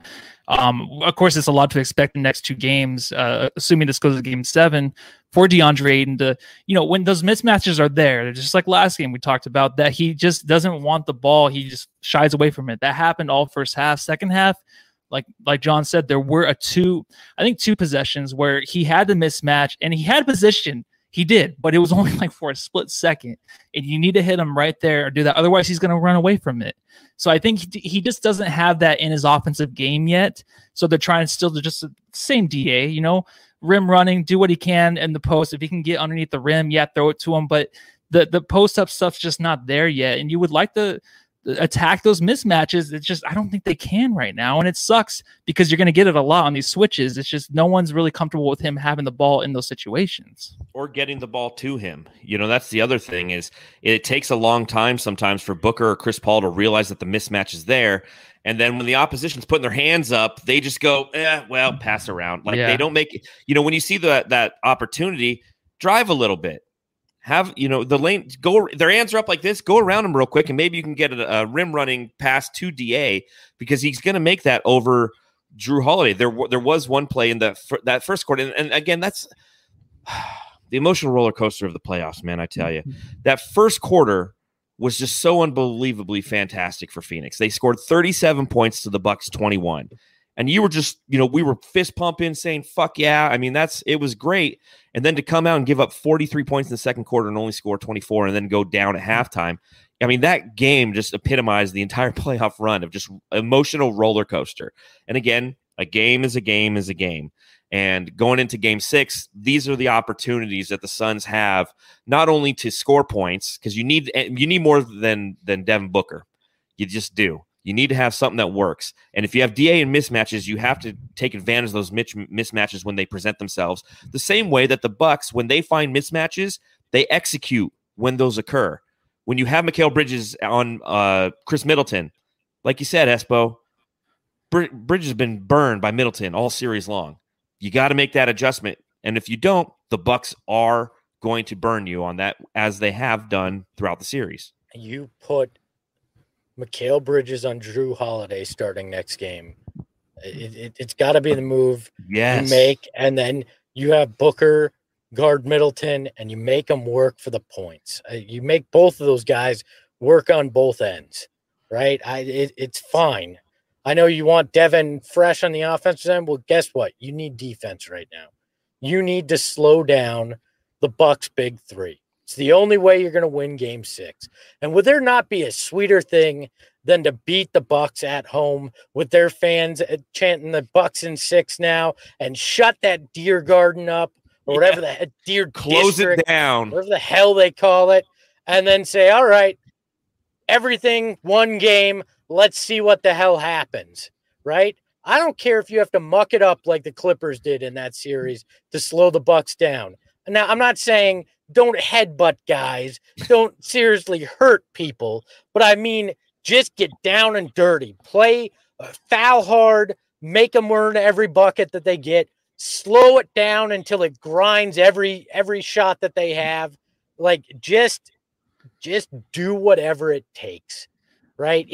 Of course, it's a lot to expect in the next 2 games, assuming this goes to Game 7, for DeAndre Ayton to, when those mismatches are there, just like last game we talked about, that he just doesn't want the ball. He just shies away from it. That happened all first half. Second half, like John said, there were 2 possessions where he had the mismatch and he had position. He did, but it was only like for a split second, and you need to hit him right there or do that. Otherwise, he's going to run away from it. So I think he just doesn't have that in his offensive game yet. So they're trying still to just same DA, rim running, do what he can in the post. If he can get underneath the rim, throw it to him. But the post up stuff's just not there yet. And you would like to attack those mismatches. It's just, I don't think they can right now. And it sucks because you're going to get it a lot on these switches. It's just no one's really comfortable with him having the ball in those situations. Or getting the ball to him. That's the other thing is it takes a long time sometimes for Booker or Chris Paul to realize that the mismatch is there. And then when the opposition's putting their hands up, they just go, pass around. They don't make it. When you see that opportunity, drive a little bit. Have, the lane, their hands are up like this, go around them real quick, and maybe you can get a rim running pass to DA, because he's going to make that over Drew Holiday. There was one play in that first quarter, and again, that's the emotional roller coaster of the playoffs, man, I tell you. That first quarter was just so unbelievably fantastic for Phoenix. They scored 37 points to the Bucks 21. And you were just, we were fist pumping, saying, fuck yeah. I mean, it was great. And then to come out and give up 43 points in the second quarter and only score 24 and then go down at halftime. I mean, that game just epitomized the entire playoff run of just emotional roller coaster. And again, a game is a game is a game. And going into Game 6, these are the opportunities that the Suns have, not only to score points, because you need more than Devin Booker. You just do. You need to have something that works. And if you have DA in mismatches, you have to take advantage of those mismatches when they present themselves. The same way that the Bucks, when they find mismatches, they execute when those occur. When you have Mikal Bridges on Chris Middleton, like you said, Espo, Bridges has been burned by Middleton all series long. You got to make that adjustment. And if you don't, the Bucks are going to burn you on that, as they have done throughout the series. You put Mikal Bridges on Drew Holiday starting next game. It's got to be the move you make, and then you have Booker guard Middleton, and you make them work for the points. You make both of those guys work on both ends, right? It's fine. I know you want Devin fresh on the offensive end. Well, guess what? You need defense right now. You need to slow down the Bucks' big 3. It's the only way you're going to win Game 6. And would there not be a sweeter thing than to beat the Bucks at home with their fans chanting the Bucks in 6 now and shut that Deer Garden up or whatever the Deer Close District, it down, whatever the hell they call it, and then say, all right, everything, one game, let's see what the hell happens, right? I don't care if you have to muck it up like the Clippers did in that series to slow the Bucks down. Now, I'm not saying don't headbutt guys, don't seriously hurt people, but I mean, just get down and dirty, play foul hard, make them earn every bucket that they get, slow it down until it grinds every shot that they have. Like just do whatever it takes, right?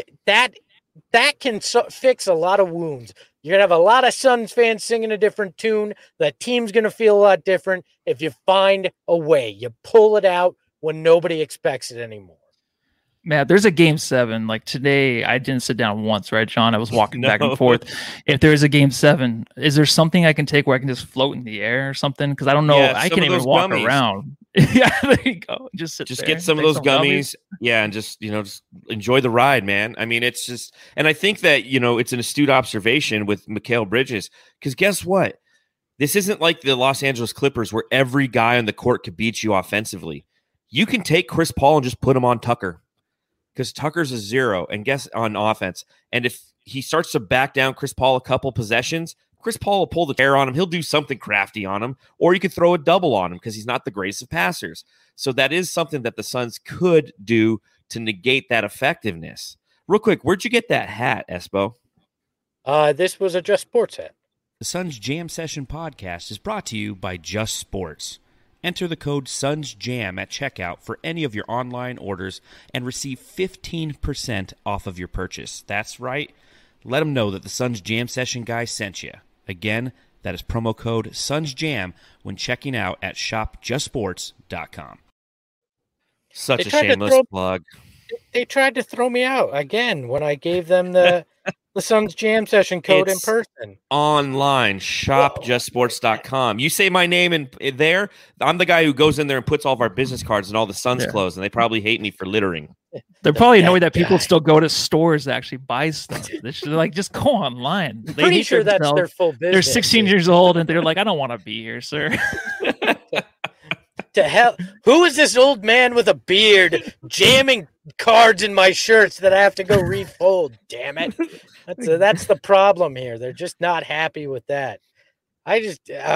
That can fix a lot of wounds. You're going to have a lot of Suns fans singing a different tune. The team's going to feel a lot different if you find a way. You pull it out when nobody expects it anymore. Man, there's a Game 7. Like today, I didn't sit down once, right, John? I was walking back and forth. If there's a Game 7, is there something I can take where I can just float in the air or something? Because I don't know. I can't even walk around. Yeah, there you go. Just get some of those gummies. Yeah, and just enjoy the ride, man. I mean, it's just, and I think that it's an astute observation with Mikal Bridges, because guess what? This isn't like the Los Angeles Clippers where every guy on the court could beat you offensively. You can take Chris Paul and just put him on Tucker, because Tucker's a 0 and guess on offense. And if he starts to back down Chris Paul a couple possessions, Chris Paul will pull the chair on him. He'll do something crafty on him, or you could throw a double on him because he's not the greatest of passers. So that is something that the Suns could do to negate that effectiveness. Real quick, where'd you get that hat, Espo? This was a Just Sports hat. The Suns Jam Session podcast is brought to you by Just Sports. Enter the code SUNSJAM at checkout for any of your online orders and receive 15% off of your purchase. That's right. Let them know that the Suns Jam Session guy sent you. Again, that is promo code SUNSJAM when checking out at shopjustsports.com. Such a shameless plug. They tried to throw me out again when I gave them the Suns Jam Session code in person. Online, shopjustsports.com. You say my name in there, I'm the guy who goes in there and puts all of our business cards and all the Suns clothes, and they probably hate me for littering. They're probably annoyed that people still go to stores to actually buy stuff. They should just go online. Pretty sure that's their full business. They're 16 years old and they're like, I don't want to be here, sir. To hell, who is this old man with a beard jamming cards in my shirts that I have to go refold? Damn it. That's the problem here. They're just not happy with that. It's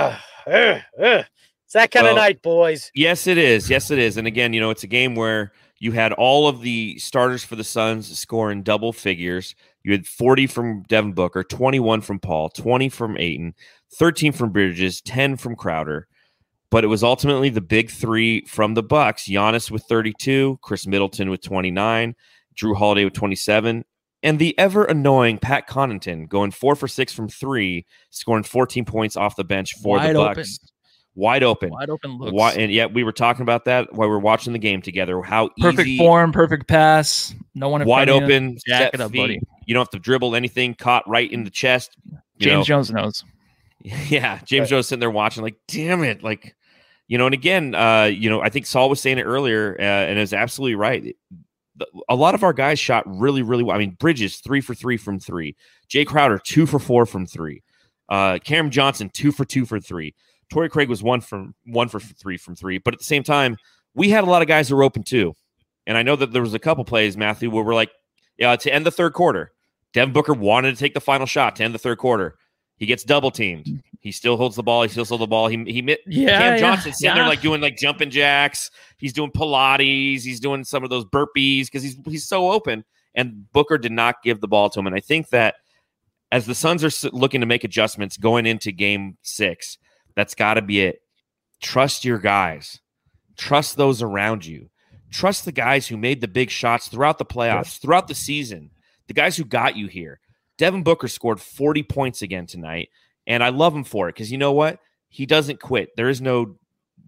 that kind of night, boys. Yes, it is. Yes, it is. And again, it's a game where you had all of the starters for the Suns score in double figures. You had 40 from Devin Booker, 21 from Paul, 20 from Ayton, 13 from Bridges, 10 from Crowder. But it was ultimately the big three from the Bucks: Giannis with 32, Chris Middleton with 29, Drew Holiday with 27, and the ever annoying Pat Connaughton going 4 for 6 from 3, scoring 14 points off the bench for the Bucks. Wide open looks. And yet we were talking about that while we were watching the game together. How perfect easy, form, perfect pass, no one in wide front open, of you. Jack it up, buddy. You don't have to dribble anything. Caught right in the chest. James Jones knows. Yeah, James Jones sitting there watching, like, damn it, like, and again, I think Saul was saying it earlier, and is absolutely right. A lot of our guys shot really, really well. I mean, Bridges 3 for 3 from 3, Jay Crowder 2 for 4 from 3, Cam Johnson 2 for 2 for 3. Torrey Craig was 1 for 3 from 3, but at the same time, we had a lot of guys who were open too. And I know that there was a couple plays, Matthew, where we're like, to end the third quarter, Devin Booker wanted to take the final shot to end the third quarter. He gets double teamed. He still holds the ball. He still holds the ball. Cam Johnson sitting there doing jumping jacks. He's doing Pilates. He's doing some of those burpees because he's so open. And Booker did not give the ball to him. And I think that as the Suns are looking to make adjustments going into Game 6, that's got to be it. Trust your guys. Trust those around you. Trust the guys who made the big shots throughout the playoffs, throughout the season, the guys who got you here. Devin Booker scored 40 points again tonight, and I love him for it because you know what? He doesn't quit. There is no,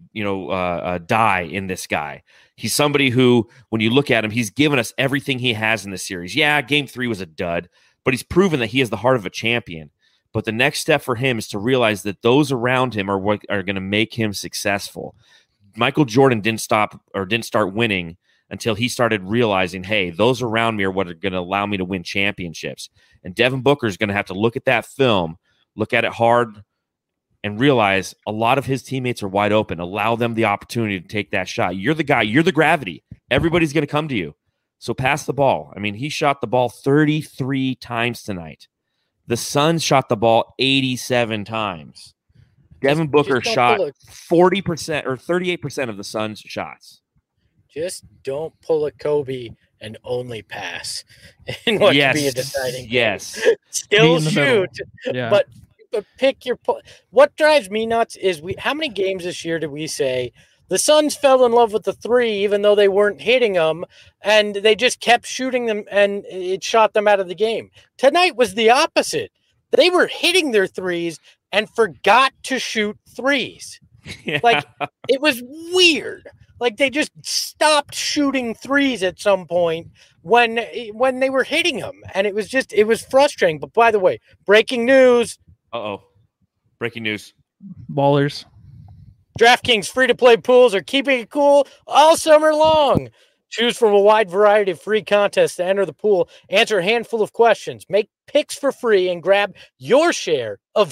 die in this guy. He's somebody who, when you look at him, he's given us everything he has in this series. Yeah, Game 3 was a dud, but he's proven that he has the heart of a champion. But the next step for him is to realize that those around him are what are going to make him successful. Michael Jordan didn't start winning until he started realizing, hey, those around me are what are going to allow me to win championships. And Devin Booker is going to have to look at that film, look at it hard, and realize a lot of his teammates are wide open. Allow them the opportunity to take that shot. You're the guy. You're the gravity. Everybody's going to come to you. So pass the ball. I mean, he shot the ball 33 times tonight. The Suns shot the ball 87 times. Devin Booker shot 40% or 38% of the Suns' shots. Just don't pull a Kobe and only pass in what could be a deciding game. Yes. Still shoot, yeah. but pick your what drives me nuts is how many games this year did we say the Suns fell in love with the three even though they weren't hitting them, and they just kept shooting them and it shot them out of the game. Tonight was the opposite. They were hitting their threes and forgot to shoot threes. Yeah. Like, it was weird. Like, they just stopped shooting threes at some point when they were hitting them. And it was frustrating. But by the way, breaking news. Breaking news. Ballers. DraftKings free-to-play pools are keeping it cool all summer long. Choose from a wide variety of free contests to enter the pool, answer a handful of questions, make picks for free, and grab your share of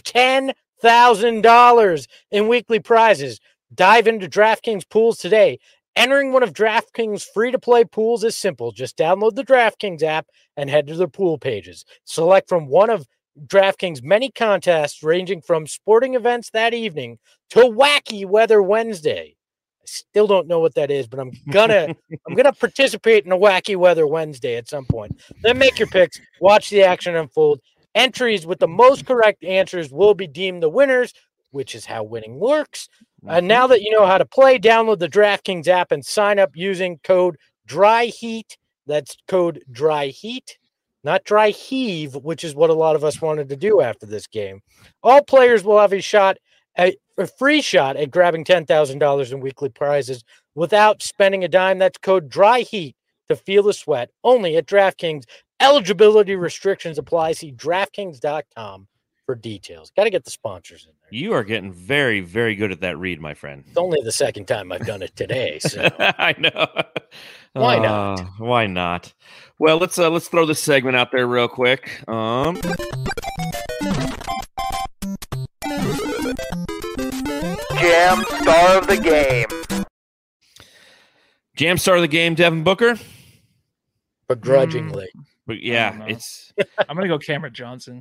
$10,000 in weekly prizes. Dive into DraftKings pools today. Entering one of DraftKings free-to-play pools is simple. Just download the DraftKings app and head to their pool pages. Select from one of DraftKings' many contests ranging from sporting events that evening to Wacky Weather Wednesday. Still don't know what that is, but I'm gonna participate in a Wacky Weather Wednesday at some point. Then make your picks, watch the action unfold. Entries with the most correct answers will be deemed the winners, which is how winning works. And now that you know how to play, download the DraftKings app and sign up using code DRYHEAT. That's code DRYHEAT, not Dry Heave, which is what a lot of us wanted to do after this game. All players will have a free shot at grabbing $10,000 in weekly prizes without spending a dime. That's code DRYHEAT to feel the sweat. Only at DraftKings. Eligibility restrictions apply. See DraftKings.com for details. Got to get the sponsors in there. You are getting very, very good at that read, my friend. It's only the second time I've done it today. So I know. Why not? Why not? Well, let's throw this segment out there real quick. Jam star of the game. Jam star of the game, Devin Booker. Begrudgingly. But yeah, I'm gonna go Cameron Johnson.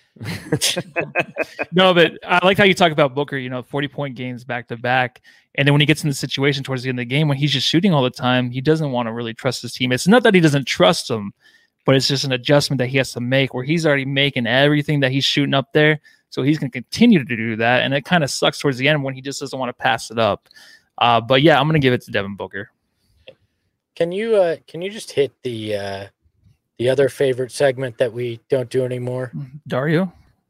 No, but I like how you talk about Booker, 40-point games back to back. And then when he gets in the situation towards the end of the game, when he's just shooting all the time, he doesn't want to really trust his team. It's not that he doesn't trust them, but it's just an adjustment that he has to make where he's already making everything that he's shooting up there. So he's going to continue to do that. And it kind of sucks towards the end when he just doesn't want to pass it up. But yeah, I'm going to give it to Devin Booker. Can you just hit the other favorite segment that we don't do anymore? Dario?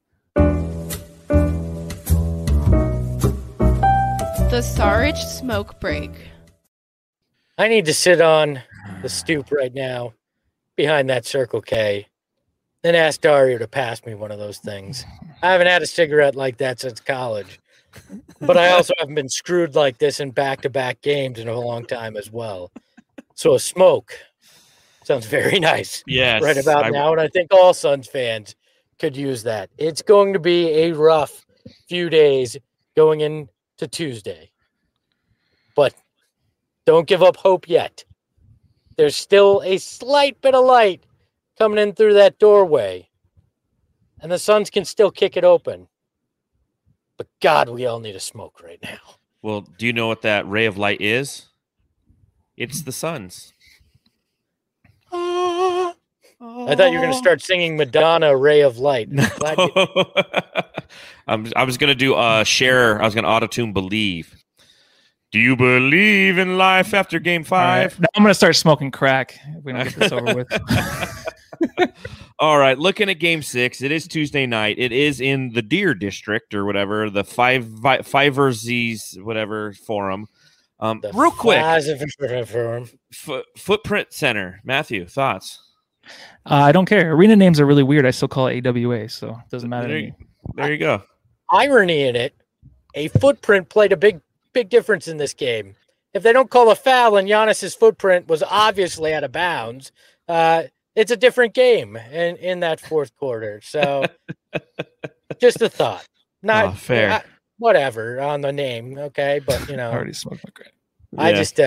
The Sarge smoke break. I need to sit on the stoop right now behind that Circle K, then ask Dario to pass me one of those things. I haven't had a cigarette like that since college, but I also haven't been screwed like this in back-to-back games in a long time as well. So a smoke sounds very nice. Yes, right about now, and I think all Suns fans could use that. It's going to be a rough few days going into Tuesday, but don't give up hope yet. There's still a slight bit of light coming in through that doorway, and the Suns can still kick it open. But God, we all need a smoke right now. Well, do you know what that ray of light is? It's the Suns. I thought you were going to start singing Madonna, Ray of Light. I was going to do Cher. I was going to auto-tune Believe. Do you believe in life after Game 5? Right. Now I'm going to start smoking crack if we don't get this over with. All right, looking at Game 6, it is Tuesday night. It is in the Deer District or whatever, the Fiverr's whatever forum. Real quick, Footprint Center. Matthew, thoughts? I don't care. Arena names are really weird. I still call it AWA, so it doesn't matter to me. There you go. Irony in it, a Footprint played a big big difference in this game. If they don't call a foul and Giannis's footprint was obviously out of bounds, it's a different game in that fourth quarter. So just a thought. Not fair. Whatever on the name, okay? But, I already smoked my crack. I just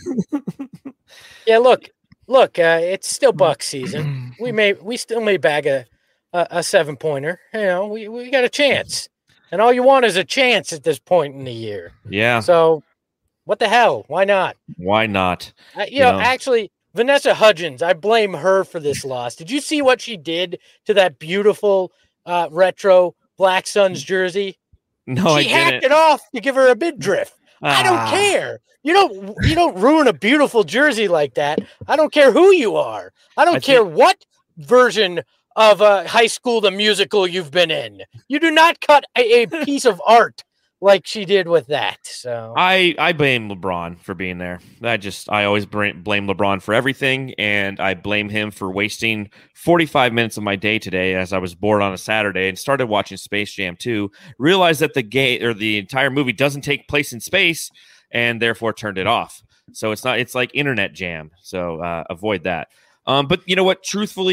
look, it's still Bucks season. We still may bag a 7-pointer. We got a chance. And all you want is a chance at this point in the year. Yeah. So what the hell? Why not? Why not? Actually, Vanessa Hudgens, I blame her for this loss. Did you see what she did to that beautiful retro Black Suns jersey? No, she hacked it off to give her a midriff. I don't care. You don't ruin a beautiful jersey like that. I don't care who you are. I don't care what version of High School the Musical you've been in. You do not cut a piece of art like she did with that. So I blame LeBron for being there. I always blame LeBron for everything, and I blame him for wasting 45 minutes of my day today as I was bored on a Saturday and started watching Space Jam 2. Realized that the entire movie doesn't take place in space, and therefore turned it off. So it's like Internet Jam. So avoid that. But you know what? Truthfully,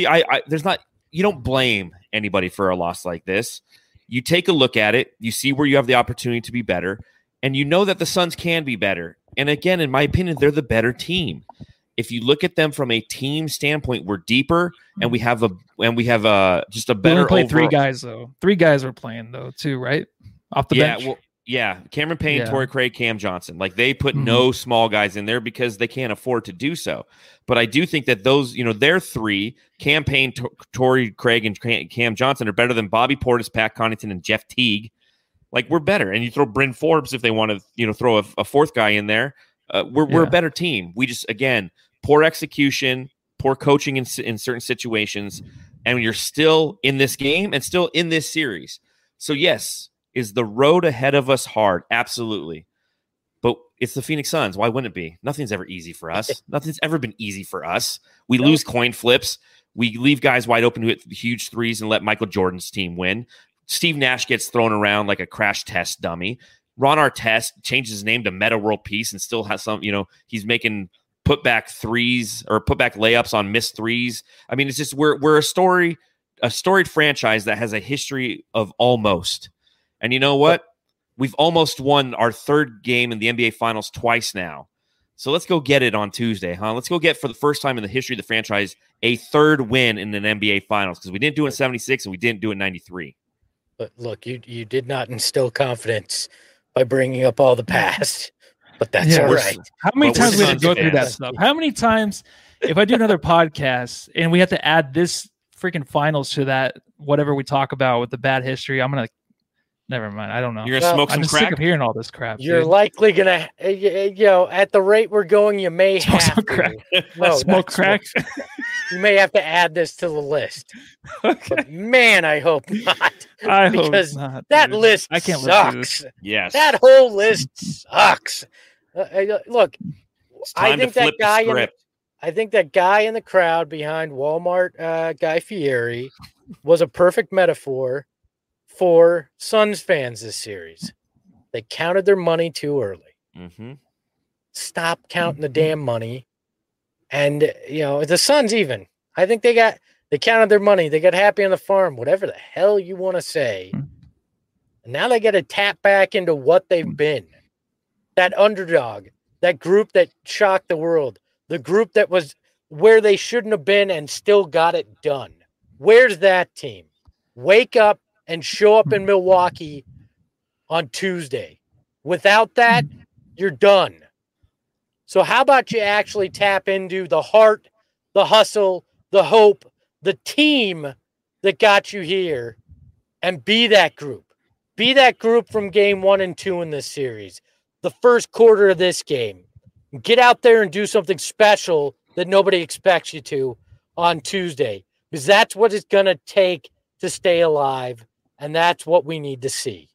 you don't blame anybody for a loss like this. You take a look at it, you see where you have the opportunity to be better, and you know that the Suns can be better. And again, in my opinion, they're the better team. If you look at them from a team standpoint, we're deeper, and we have just a better. We only played 3 guys though. 3 guys were playing though too, right? Off the bench. Yeah, Cameron Payne, Torrey Craig, Cam Johnson. Like they put no small guys in there because they can't afford to do so. But I do think that those, their 3, Cam Payne, Torrey Craig, and Cam Johnson are better than Bobby Portis, Pat Connaughton, and Jeff Teague. Like we're better. And you throw Bryn Forbes if they want to, throw a 4th guy in there. We're a better team. We just, again, poor execution, poor coaching in certain situations, and you're still in this game and still in this series. So yes. Is the road ahead of us hard? Absolutely. But it's the Phoenix Suns. Why wouldn't it be? Nothing's ever easy for us. Nothing's ever been easy for us. We lose coin flips. We leave guys wide open who hit huge threes and let Michael Jordan's team win. Steve Nash gets thrown around like a crash test dummy. Ron Artest changes his name to Meta World Peace and still has some, he's making putback threes or putback layups on missed threes. I mean, it's just we're a storied franchise that has a history of almost. And you know what? We've almost won our 3rd game in the NBA Finals twice now. So let's go get it on Tuesday, huh? Let's go get, for the first time in the history of the franchise, a 3rd win in an NBA Finals, because we didn't do it in 76 and we didn't do it in 93. But look, you did not instill confidence by bringing up all the past. But that's all right. How many times we have to go through that stuff? How many times, if I do another podcast and we have to add this freaking finals to that, whatever we talk about with the bad history, I'm going to never mind. I don't know. You're going to smoke some crack? I'm sick of hearing all this crap. You're likely going to, at the rate we're going, you may smoke have some to. Crack. No, smoke crack? You may have to add this to the list. Okay. But man, I hope not. I because hope not, that dude. list I can't sucks. Yes. That whole list sucks. Look, I think that guy in the crowd behind Walmart, Guy Fieri, was a perfect metaphor for Suns fans this series. They counted their money too early. Mm-hmm. Stop counting the damn money. And, the Suns even. I think they counted their money. They got happy on the farm, whatever the hell you want to say. And now they got to tap back into what they've been. That underdog, that group that shocked the world, the group that was where they shouldn't have been and still got it done. Where's that team? Wake up and show up in Milwaukee on Tuesday. Without that, you're done. So how about you actually tap into the heart, the hustle, the hope, the team that got you here, and be that group. Be that group from game 1 and 2 in this series. The first quarter of this game. Get out there and do something special that nobody expects you to on Tuesday. Because that's what it's going to take to stay alive. And that's what we need to see.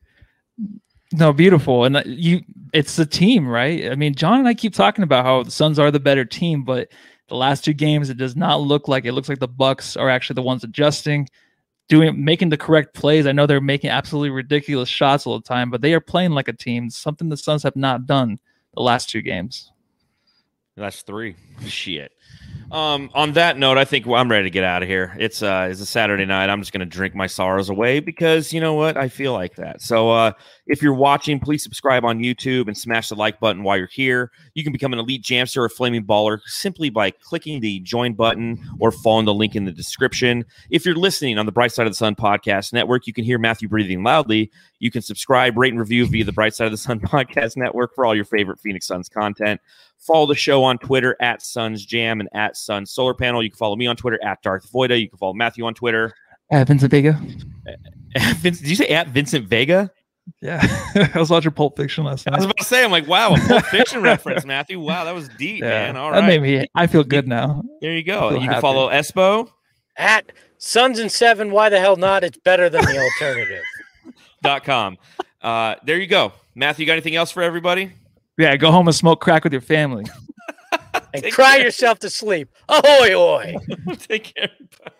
No, beautiful. And it's the team, right? I mean, John and I keep talking about how the Suns are the better team, but the last 2 games, it does not look like it. Looks like the Bucks are actually the ones adjusting. making the correct plays. I know they're making absolutely ridiculous shots all the time, but they are playing like a team, something the Suns have not done the last 2 games. That's 3. Shit. On that note, I think I'm ready to get out of here. It's a Saturday night. I'm just going to drink my sorrows away because you know what? I feel like that. So if you're watching, please subscribe on YouTube and smash the like button while you're here. You can become an Elite Jamster or Flaming Baller simply by clicking the join button or following the link in the description. If you're listening on the Bright Side of the Sun Podcast Network, you can hear Matthew breathing loudly. You can subscribe, rate, and review via the Bright Side of the Sun Podcast Network for all your favorite Phoenix Suns content. Follow the show on Twitter at Suns Jam and at Suns Solar Panel. You can follow me on Twitter at Darth Voida. You can follow Matthew on Twitter at Vincent Vega. Did you say at Vincent Vega? Yeah, I was watching Pulp Fiction last night. I was about to say, I'm like, wow, a Pulp Fiction reference, Matthew. Wow, that was deep, man. All right, that made me. I feel good now. There you go. You can follow Espo at Suns and 7. Why the hell not? It's better than the alternative. .com. There you go, Matthew. You got anything else for everybody? Yeah, go home and smoke crack with your family. And cry yourself to sleep. Ahoy, hoy. Take care. Bye.